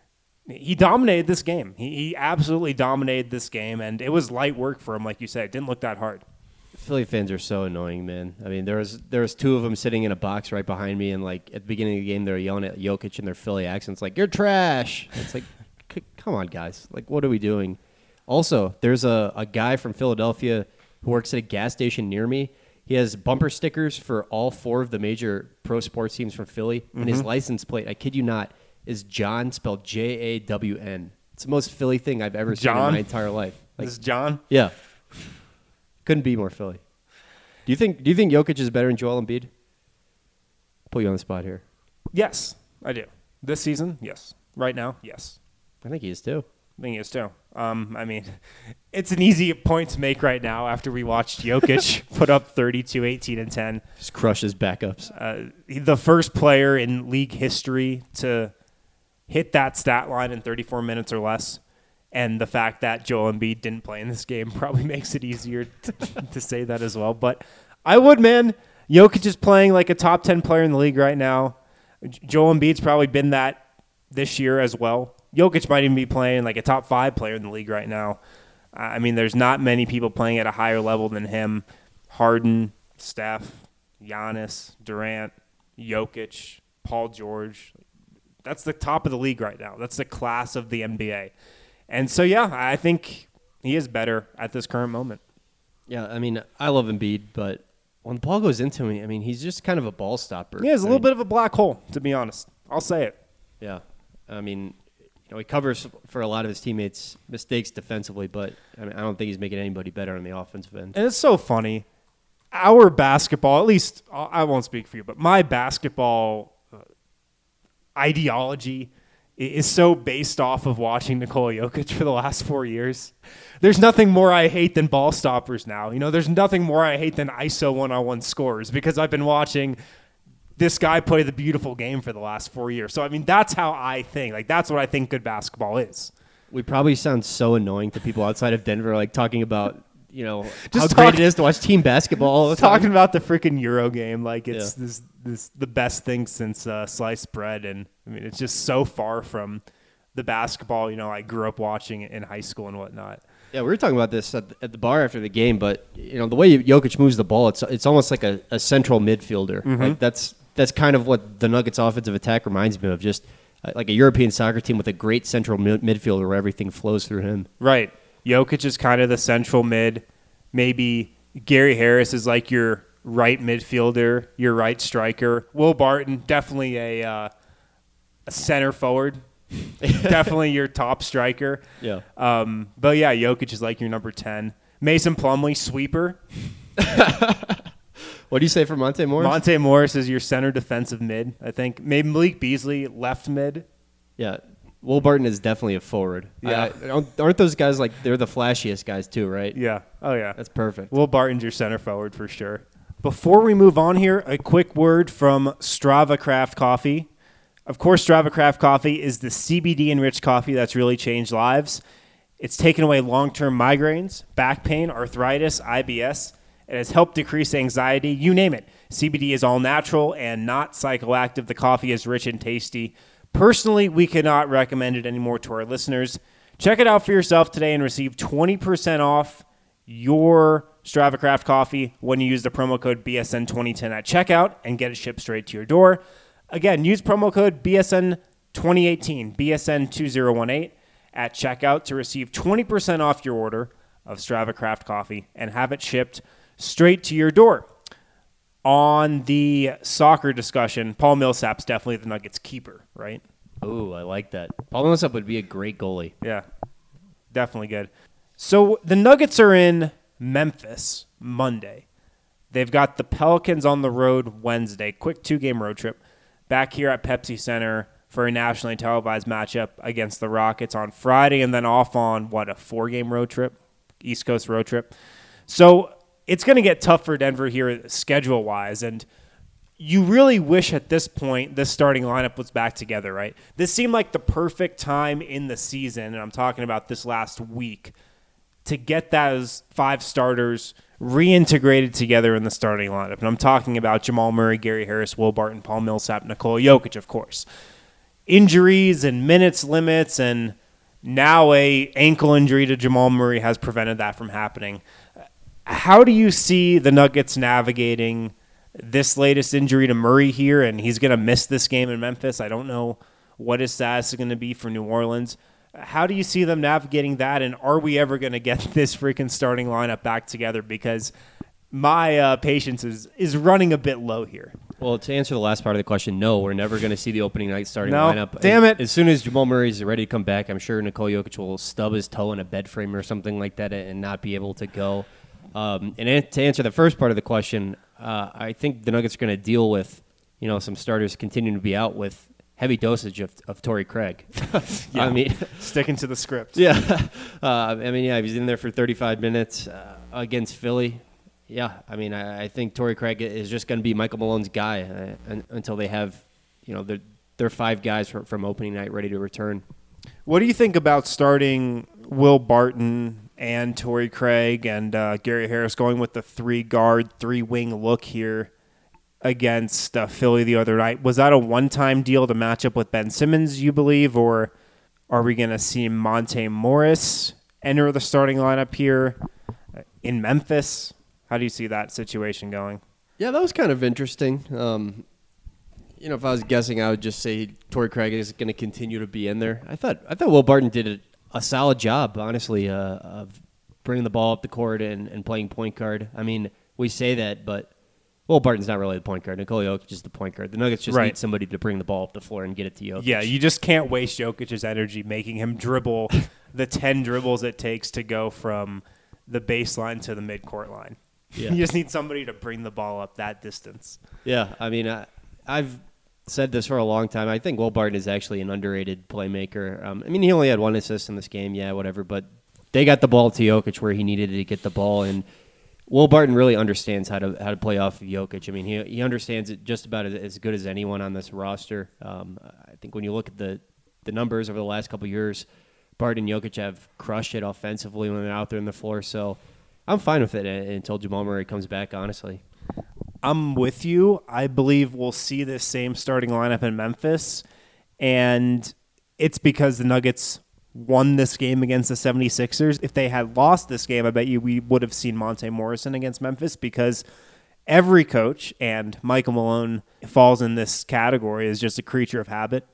he dominated this game. He, he absolutely dominated this game. And it was light work for him, like you said. It didn't look that hard. Philly fans are so annoying, man. I mean, there was there was two of them sitting in a box right behind me, and like at the beginning of the game, they were yelling at Jokic in their Philly accents, like "You're trash." It's like, c- come on, guys. Like, what are we doing? Also, there's a, a guy from Philadelphia who works at a gas station near me. He has bumper stickers for all four of the major pro sports teams from Philly. Mm-hmm. And his license plate, I kid you not, is John, spelled J A W N. It's the most Philly thing I've ever seen John? in my entire life. Like, This is John. yeah. Couldn't be more Philly. Do you think Do you think Jokic is better than Joel Embiid? Put you on the spot here. Yes, I do. This season, yes. Right now, yes. I think he is too. I think he is too. Um, I mean, it's an easy point to make right now after we watched Jokic put up thirty-two, eighteen, and ten. Just crushes backups. Uh, he- the first player in league history to hit that stat line in thirty-four minutes or less. And the fact that Joel Embiid didn't play in this game probably makes it easier to, to say that as well. But I would, man. Jokic is playing like a top ten player in the league right now. J- Joel Embiid's probably been that this year as well. Jokic might even be playing like a top five player in the league right now. Uh, I mean, there's not many people playing at a higher level than him. Harden, Steph, Giannis, Durant, Jokic, Paul George. That's the top of the league right now. That's the class of the N B A. And so, yeah, I think he is better at this current moment. Yeah, I mean, I love Embiid, but when the ball goes into him, I mean, he's just kind of a ball stopper. Yeah, he's a I little mean, bit of a black hole, to be honest. I'll say it. Yeah, I mean, you know, he covers for a lot of his teammates' mistakes defensively, but I mean, I don't think he's making anybody better on the offensive end. And it's so funny. Our basketball, at least I won't speak for you, but my basketball uh, ideology i- is so based off of watching Nikola Jokic for the last four years. There's nothing more I hate than ball stoppers now. You know, there's nothing more I hate than I S O one-on-one scores because I've been watching this guy play the beautiful game for the last four years. So, I mean, that's how I think. Like, that's what I think good basketball is. We probably sound so annoying to people outside of Denver, like talking about, you know, Just how great talk- it is to watch team basketball all the time. Talking about the freaking Euro game, like it's Yeah. this this the best thing since uh, sliced bread, and I mean it's just so far from the basketball you know I grew up watching in high school and whatnot. Yeah, we were talking about this at the, at the bar after the game, but you know the way Jokic moves the ball, it's it's almost like a, a central midfielder. Mm-hmm. Like that's that's kind of what the Nuggets' offensive attack reminds me of, just uh, like a European soccer team with a great central mid- midfielder where everything flows through him. Right, Jokic is kind of the central mid. Maybe Gary Harris is like your right midfielder, your right striker. Will Barton definitely a uh, a center forward. Definitely your top striker. Yeah. Um, but yeah, Jokic is like your number ten. Mason Plumlee, sweeper. What do you say for Monte Morris? Monte Morris is your center defensive mid, I think. Maybe Malik Beasley, left mid. Yeah. Will Barton is definitely a forward. Yeah. I- I- aren't those guys like, they're the flashiest guys too, right? Yeah. Oh, yeah. That's perfect. Will Barton's your center forward for sure. Before we move on here, a quick word from Strava Craft Coffee. Of course, Strava Craft Coffee is the C B D-enriched coffee that's really changed lives. It's taken away long-term migraines, back pain, arthritis, I B S. It has helped decrease anxiety, you name it. C B D is all natural and not psychoactive. The coffee is rich and tasty. Personally, we cannot recommend it anymore to our listeners. Check it out for yourself today and receive twenty percent off your Strava Craft coffee when you use the promo code B S N twenty ten at checkout and get it shipped straight to your door. Again, use promo code B S N twenty eighteen, B S N two thousand eighteen at checkout to receive twenty percent off your order of Strava Craft coffee and have it shipped straight to your door. On the soccer discussion, Paul Millsap's definitely the Nuggets keeper, right? Ooh, I like that. Paul Millsap would be a great goalie. Yeah, definitely good. So the Nuggets are in Memphis Monday. They've got the Pelicans on the road Wednesday. Quick two-game road trip. Back here at Pepsi Center for a nationally televised matchup against the Rockets on Friday, and then off on, what, a four-game road trip? East Coast road trip. So it's going to get tough for Denver here schedule-wise, and you really wish at this point this starting lineup was back together, right? This seemed like the perfect time in the season, and I'm talking about this last week, to get those five starters reintegrated together in the starting lineup. And I'm talking about Jamal Murray, Gary Harris, Will Barton, Paul Millsap, Nikola Jokic, of course. Injuries and minutes limits and now a ankle injury to Jamal Murray has prevented that from happening. How do you see the Nuggets navigating this latest injury to Murray here? And he's going to miss this game in Memphis. I don't know what his status is going to be for New Orleans. How do you see them navigating that, and are we ever going to get this freaking starting lineup back together? Because my uh, patience is is running a bit low here. Well, to answer the last part of the question, no, we're never going to see the opening night starting No, lineup. damn as, it. As soon as Jamal Murray's ready to come back, I'm sure Nikola Jokic will stub his toe in a bed frame or something like that and not be able to go. Um, and an- to answer the first part of the question, uh, I think the Nuggets are going to deal with, you know, some starters continuing to be out with heavy dosage of, of Torrey Craig. Yeah. I mean, Sticking to the script. yeah. Uh, I mean, yeah, he's in there for thirty-five minutes uh, against Philly. Yeah, I mean, I, I think Torrey Craig is just going to be Michael Malone's guy uh, un, until they have, you know, their their five guys from, from opening night ready to return. What do you think about starting Will Barton and Torrey Craig and uh, Gary Harris going with the three guard, three wing look here against uh, Philly the other night? Was that a one time deal to match up with Ben Simmons, you believe, or are we going to see Monte Morris enter the starting lineup here in Memphis? How do you see that situation going? Yeah, that was kind of interesting. Um, you know, if I was guessing, I would just say Torrey Craig is going to continue to be in there. I thought I thought Will Barton did a, a solid job, honestly, uh, of bringing the ball up the court and, and playing point guard. I mean, we say that, but Will Barton's not really the point guard. Nikola Jokic is the point guard. The Nuggets just Right. need somebody to bring the ball up the floor and get it to Jokic. Yeah, you just can't waste Jokic's energy making him dribble the ten dribbles it takes to go from the baseline to the midcourt line. Yeah. You just need somebody to bring the ball up that distance. Yeah, I mean, I, I've said this for a long time. I think Will Barton is actually an underrated playmaker. Um, I mean, he only had one assist in this game, yeah, whatever, but they got the ball to Jokic where he needed to get the ball, and Will Barton really understands how to how to play off of Jokic. I mean, he he understands it just about as, as good as anyone on this roster. Um, I think when you look at the, the numbers over the last couple of years, Barton and Jokic have crushed it offensively when they're out there on the floor, so I'm fine with it until Jamal Murray comes back, honestly. I'm with you. I believe we'll see this same starting lineup in Memphis, and it's because the Nuggets won this game against the seventy-sixers. If they had lost this game, I bet you we would have seen Monte Morrison against Memphis, because every coach, and Michael Malone falls in this category, is just a creature of habit.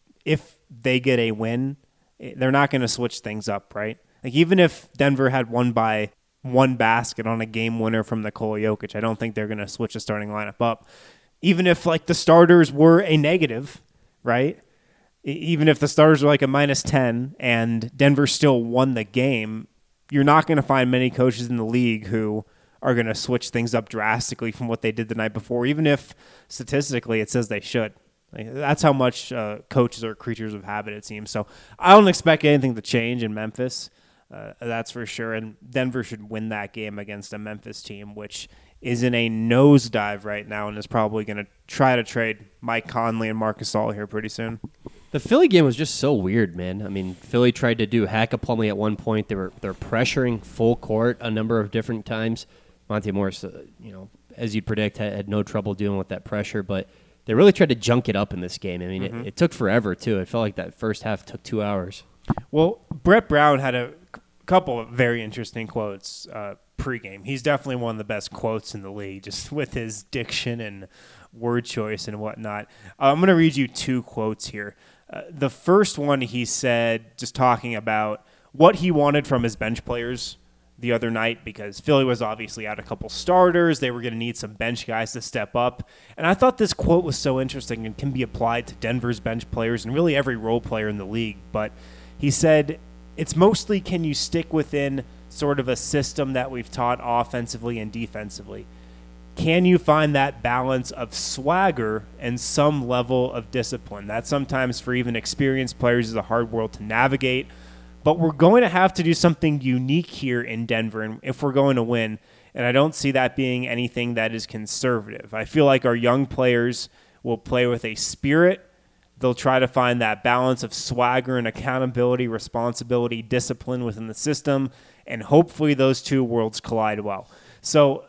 If they get a win, they're not going to switch things up, right? Like, even if Denver had won by one basket on a game winner from Nikola Jokic, I don't think they're going to switch the starting lineup up. Even if, like, the starters were a negative, right? Even if the starters are like a minus ten and Denver still won the game, you're not going to find many coaches in the league who are going to switch things up drastically from what they did the night before, even if statistically it says they should. Like, that's how much uh, coaches are creatures of habit, it seems. So I don't expect anything to change in Memphis. Uh, that's for sure. And Denver should win that game against a Memphis team, which is in a nosedive right now and is probably going to try to trade Mike Conley and Marc Gasol here pretty soon. The Philly game was just so weird, man. I mean, Philly tried to do hack a Plumlee at one point. They were they're pressuring full court a number of different times. Monte Morris, uh, you know, as you'd predict, had, had no trouble dealing with that pressure, but they really tried to junk it up in this game. I mean, mm-hmm. it, it took forever, too. It felt like that first half took two hours. Well, Brett Brown had a c- couple of very interesting quotes uh, pregame. He's definitely one of the best quotes in the league, just with his diction and word choice and whatnot. Uh, I'm going to read you two quotes here. Uh, the first one he said, just talking about what he wanted from his bench players the other night, because Philly was obviously out a couple starters. They were going to need some bench guys to step up. And I thought this quote was so interesting and can be applied to Denver's bench players and really every role player in the league. But he said, it's mostly, can you stick within sort of a system that we've taught offensively and defensively? Can you find that balance of swagger and some level of discipline? That sometimes for even experienced players is a hard world to navigate. But we're going to have to do something unique here in Denver and if we're going to win. And I don't see that being anything that is conservative. I feel like our young players will play with a spirit. They'll try to find that balance of swagger and accountability, responsibility, discipline within the system. And hopefully those two worlds collide well. So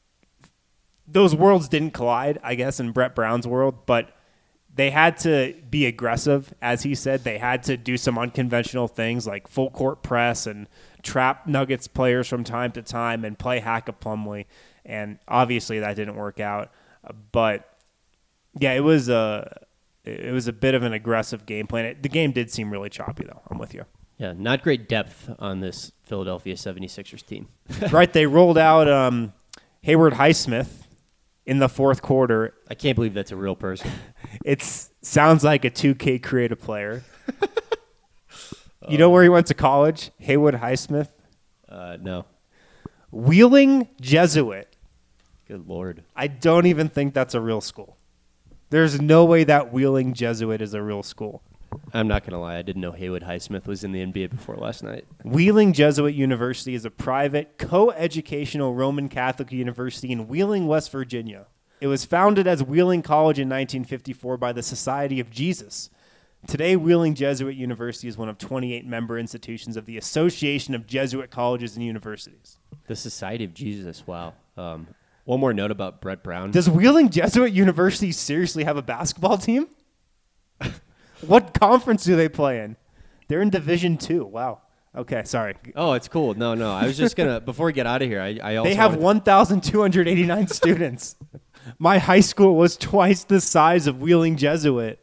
those worlds didn't collide, I guess, in Brett Brown's world, but they had to be aggressive, as he said. They had to do some unconventional things like full court press and trap Nuggets players from time to time and play hack a Plumlee. And obviously that didn't work out. But yeah, it was a it was a bit of an aggressive game plan. It, the game did seem really choppy, though. I'm with you. Yeah, not great depth on this Philadelphia seventy-sixers team. Right, they rolled out um, Hayward Highsmith in the fourth quarter. I can't believe that's a real person. It sounds like a two K creative player. You know where he went to college? Haywood Highsmith. Uh, no. Wheeling Jesuit. Good Lord. I don't even think that's a real school. There's no way that Wheeling Jesuit is a real school. I'm not going to lie. I didn't know Haywood Highsmith was in the N B A before last night. Wheeling Jesuit University is a private, co-educational Roman Catholic university in Wheeling, West Virginia. It was founded as Wheeling College in nineteen fifty-four by the Society of Jesus. Today, Wheeling Jesuit University is one of twenty-eight member institutions of the Association of Jesuit Colleges and Universities. The Society of Jesus. Wow. Um, one more note about Brett Brown. Does Wheeling Jesuit University seriously have a basketball team? What conference do they play in? They're in Division Two. Wow. Okay, sorry. Oh, it's cool. No, no. I was just going to, before we get out of here, I, I also. They have wanted- one thousand two hundred eighty-nine students. My high school was twice the size of Wheeling Jesuit.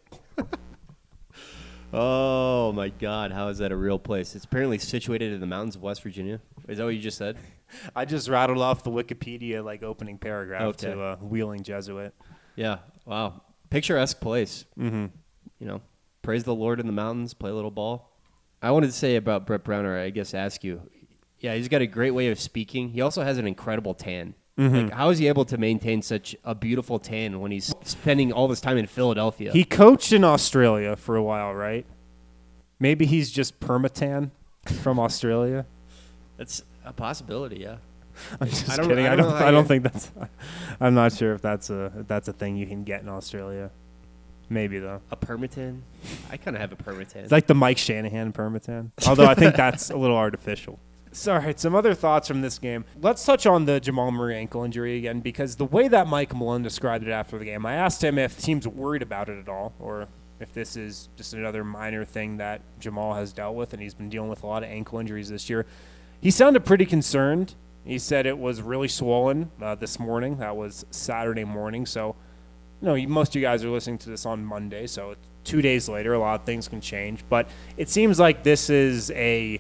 Oh, my God. How is that a real place? It's apparently situated in the mountains of West Virginia. Is that what you just said? I just rattled off the Wikipedia like opening paragraph Okay. to uh, Wheeling Jesuit. Yeah. Wow. Picturesque place. Mm-hmm. You know, praise the Lord in the mountains, play a little ball. I wanted to say about Brett Brown, or I guess ask you. Yeah, he's got a great way of speaking. He also has an incredible tan. Mm-hmm. Like, how is he able to maintain such a beautiful tan when he's spending all this time in Philadelphia? He coached in Australia for a while, right? Maybe he's just permatan from Australia. That's a possibility, yeah. I'm just I don't- kidding. I I don't don't. know how I don't you- think that's. I'm not sure if that's a if that's a thing you can get in Australia. Maybe though. A permatan? I kind of have a permatan. It's like the Mike Shanahan permatan. Although I think that's a little artificial. So, all right, some other thoughts from this game. Let's touch on the Jamal Murray ankle injury again, because the way that Mike Malone described it after the game, I asked him if teams worried about it at all, or if this is just another minor thing that Jamal has dealt with, and he's been dealing with a lot of ankle injuries this year. He sounded pretty concerned. He said it was really swollen uh, this morning. That was Saturday morning. So, you know, most of you guys are listening to this on Monday, so it's two days later, a lot of things can change. But it seems like this is a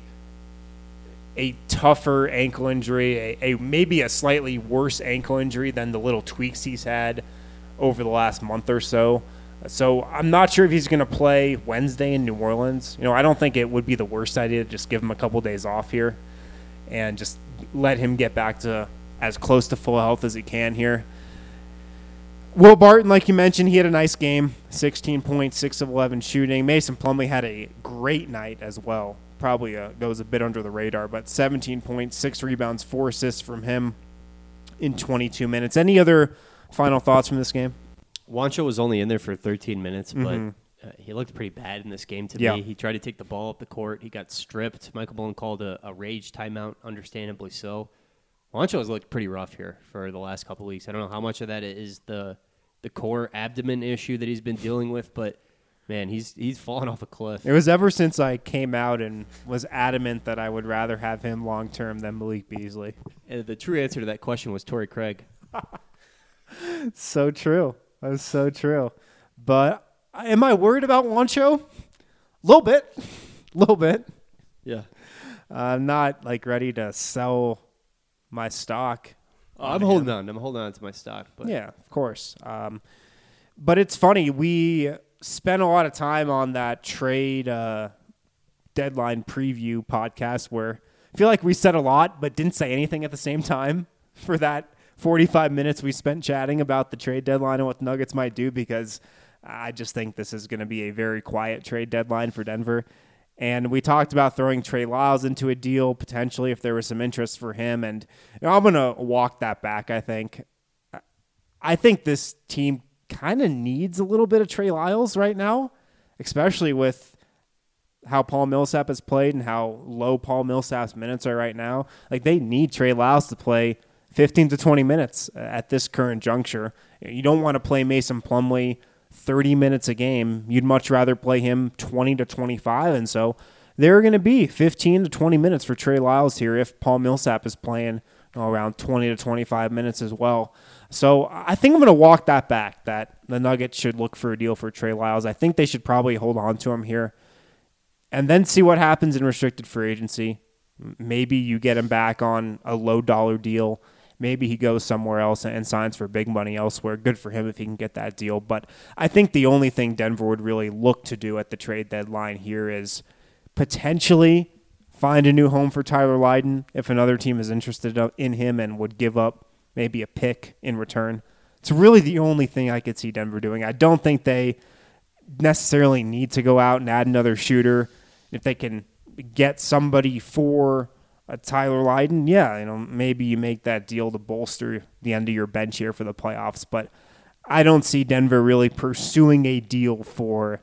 a tougher ankle injury, a, a maybe a slightly worse ankle injury than the little tweaks he's had over the last month or so. So I'm not sure if he's going to play Wednesday in New Orleans. You know, I don't think it would be the worst idea to just give him a couple days off here and just let him get back to as close to full health as he can here. Will Barton, like you mentioned, he had a nice game, sixteen points, six of eleven shooting. Mason Plumlee had a great night as well. Probably uh, goes a bit under the radar, but seventeen points, six rebounds, four assists from him in twenty-two minutes. Any other final thoughts from this game? Wancho was only in there for thirteen minutes, but Mhm. uh, he looked pretty bad in this game to Yeah. me. He tried to take the ball up the court. He got stripped. Michael Malone called a, a rage timeout, understandably so. Wancho has looked pretty rough here for the last couple of weeks. I don't know how much of that is the the core abdomen issue that he's been dealing with, but man, he's he's fallen off a cliff. It was ever since I came out and was adamant that I would rather have him long term than Malik Beasley. And the true answer to that question was Torrey Craig. So true. That was so true. But am I worried about Wancho? A little bit. A little bit. Yeah. Uh, I'm not like ready to sell my stock. Oh, I'm holding on. I'm holding on to my stock. But Yeah, of course. Um, but it's funny. We spent a lot of time on that trade uh, deadline preview podcast where I feel like we said a lot but didn't say anything at the same time for that forty-five minutes we spent chatting about the trade deadline and what the Nuggets might do, because I just think this is going to be a very quiet trade deadline for Denver. And we talked about throwing Trey Lyles into a deal potentially if there was some interest for him. And you know, I'm going to walk that back, I think. I think this team kind of needs a little bit of Trey Lyles right now, especially with how Paul Millsap has played and how low Paul Millsap's minutes are right now. Like, they need Trey Lyles to play fifteen to twenty minutes at this current juncture. You don't want to play Mason Plumlee thirty minutes a game. You'd much rather play him twenty to twenty-five. And so there are going to be fifteen to twenty minutes for Trey Lyles here if Paul Millsap is playing you know, around twenty to twenty-five minutes as well. So I think I'm going to walk that back, that the Nuggets should look for a deal for Trey Lyles. I think they should probably hold on to him here and then see what happens in restricted free agency. Maybe you get him back on a low dollar deal. maybe he goes somewhere else and signs for big money elsewhere. Good for him if he can get that deal. But I think the only thing Denver would really look to do at the trade deadline here is potentially find a new home for Tyler Lydon if another team is interested in him and would give up maybe a pick in return. It's really the only thing I could see Denver doing. I don't think they necessarily need to go out and add another shooter. If they can get somebody for a Tyler Lydon, yeah, you know, maybe you make that deal to bolster the end of your bench here for the playoffs. But I don't see Denver really pursuing a deal for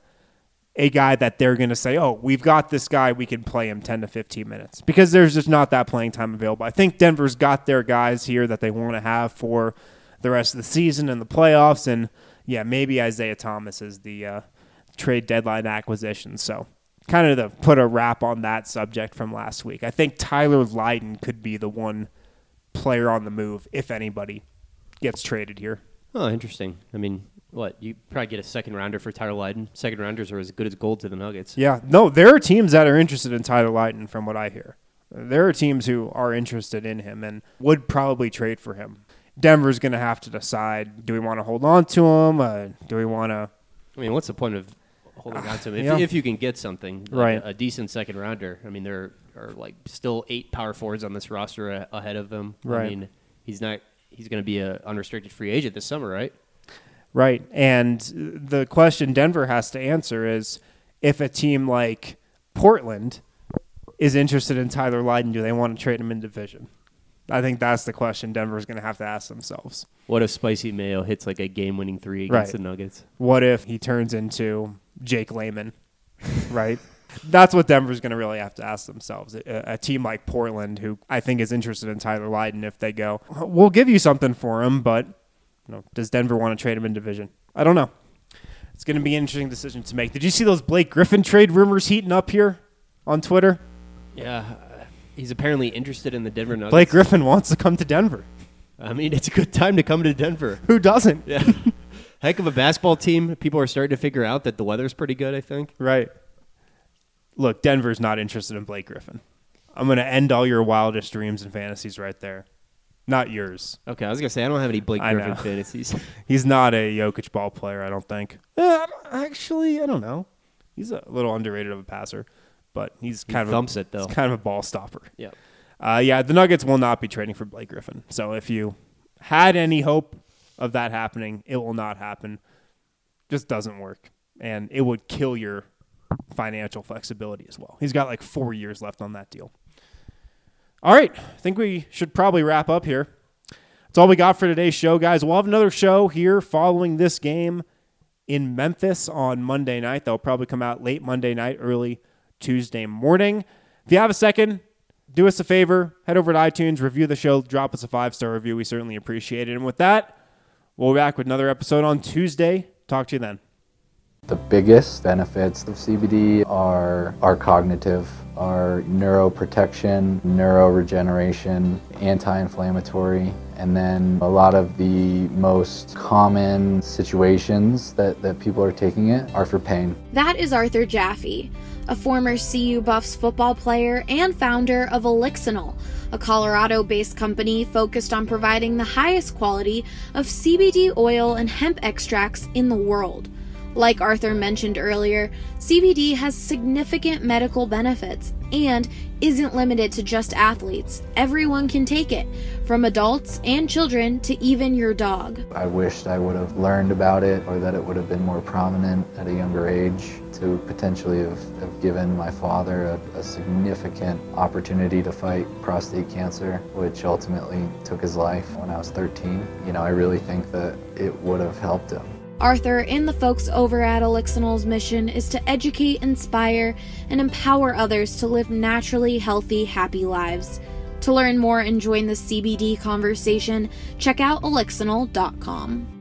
a guy that they're going to say, oh, we've got this guy, we can play him ten to fifteen minutes, because there's just not that playing time available. I think Denver's got their guys here that they want to have for the rest of the season and the playoffs, and yeah, maybe Isaiah Thomas is the uh, trade deadline acquisition. So kind of to put a wrap on that subject from last week, I think Tyler Lydon could be the one player on the move, if anybody gets traded here. Oh, interesting. I mean, what, you probably get a second rounder for Tyler Lydon. Second rounders are as good as gold to the Nuggets. Yeah, no, there are teams that are interested in Tyler Lydon from what I hear. There are teams who are interested in him and would probably trade for him. Denver's going to have to decide, do we want to hold on to him? Uh, do we want to... I mean, what's the point of holding on to him? If, Yeah. if you can get something, like Right. a, a decent second rounder. I mean, there are like still eight power forwards on this roster a, ahead of him. Right. I mean, he's not. He's going to be an unrestricted free agent this summer, right? Right, and the question Denver has to answer is, if a team like Portland is interested in Tyler Lydon, do they want to trade him in division? I think that's the question Denver's going to have to ask themselves. What if Spicy Mayo hits like a game-winning three against Right. the Nuggets? What if he turns into Jake Layman, right? That's what Denver's going to really have to ask themselves. A, a team like Portland, who I think is interested in Tyler Lydon, if they go, we'll give you something for him, but you know, does Denver want to trade him in division? I don't know. It's going to be an interesting decision to make. Did you see those Blake Griffin trade rumors heating up here on Twitter? Yeah, uh, he's apparently interested in the Denver Nuggets. Blake Griffin wants to come to Denver. I mean, it's a good time to come to Denver. Who doesn't? Yeah. Heck of a basketball team. People are starting to figure out that the weather's pretty good, I think. Right. Look, Denver's not interested in Blake Griffin. I'm going to end all your wildest dreams and fantasies right there. Not yours. Okay, I was going to say, I don't have any Blake I Griffin know. fantasies. He's not a Jokic ball player, I don't think. Eh, I don't- actually, I don't know. He's a little underrated of a passer, but he's He kind of thumps a, it, though. he's kind of a ball stopper. Yep. Uh, yeah, the Nuggets will not be trading for Blake Griffin. So if you had any hope of that happening, it will not happen. Just doesn't work. And it would kill your financial flexibility as well. He's got like four years left on that deal. All right. I think we should probably wrap up here. That's all we got for today's show, guys. We'll have another show here following this game in Memphis on Monday night. They'll probably come out late Monday night, early Tuesday morning. If you have a second, do us a favor. Head over to iTunes, review the show, drop us a five-star review. We certainly appreciate it. And with that, we'll be back with another episode on Tuesday. Talk to you then. The biggest benefits of C B D are, are cognitive, are neuroprotection, neuroregeneration, anti-inflammatory, and then a lot of the most common situations that, that people are taking it are for pain. That is Arthur Jaffe, a former C U Buffs football player and founder of Elixinol, a Colorado-based company focused on providing the highest quality of C B D oil and hemp extracts in the world. Like Arthur mentioned earlier, C B D has significant medical benefits and isn't limited to just athletes. Everyone can take it, from adults and children to even your dog. I wished I would have learned about it, or that it would have been more prominent at a younger age, to potentially have, have given my father a, a significant opportunity to fight prostate cancer, which ultimately took his life when I was thirteen. You know, I really think that it would have helped him. Arthur and the folks over at Elixinol's mission is to educate, inspire, and empower others to live naturally healthy, happy lives. To learn more and join the C B D conversation, check out elixinol dot com.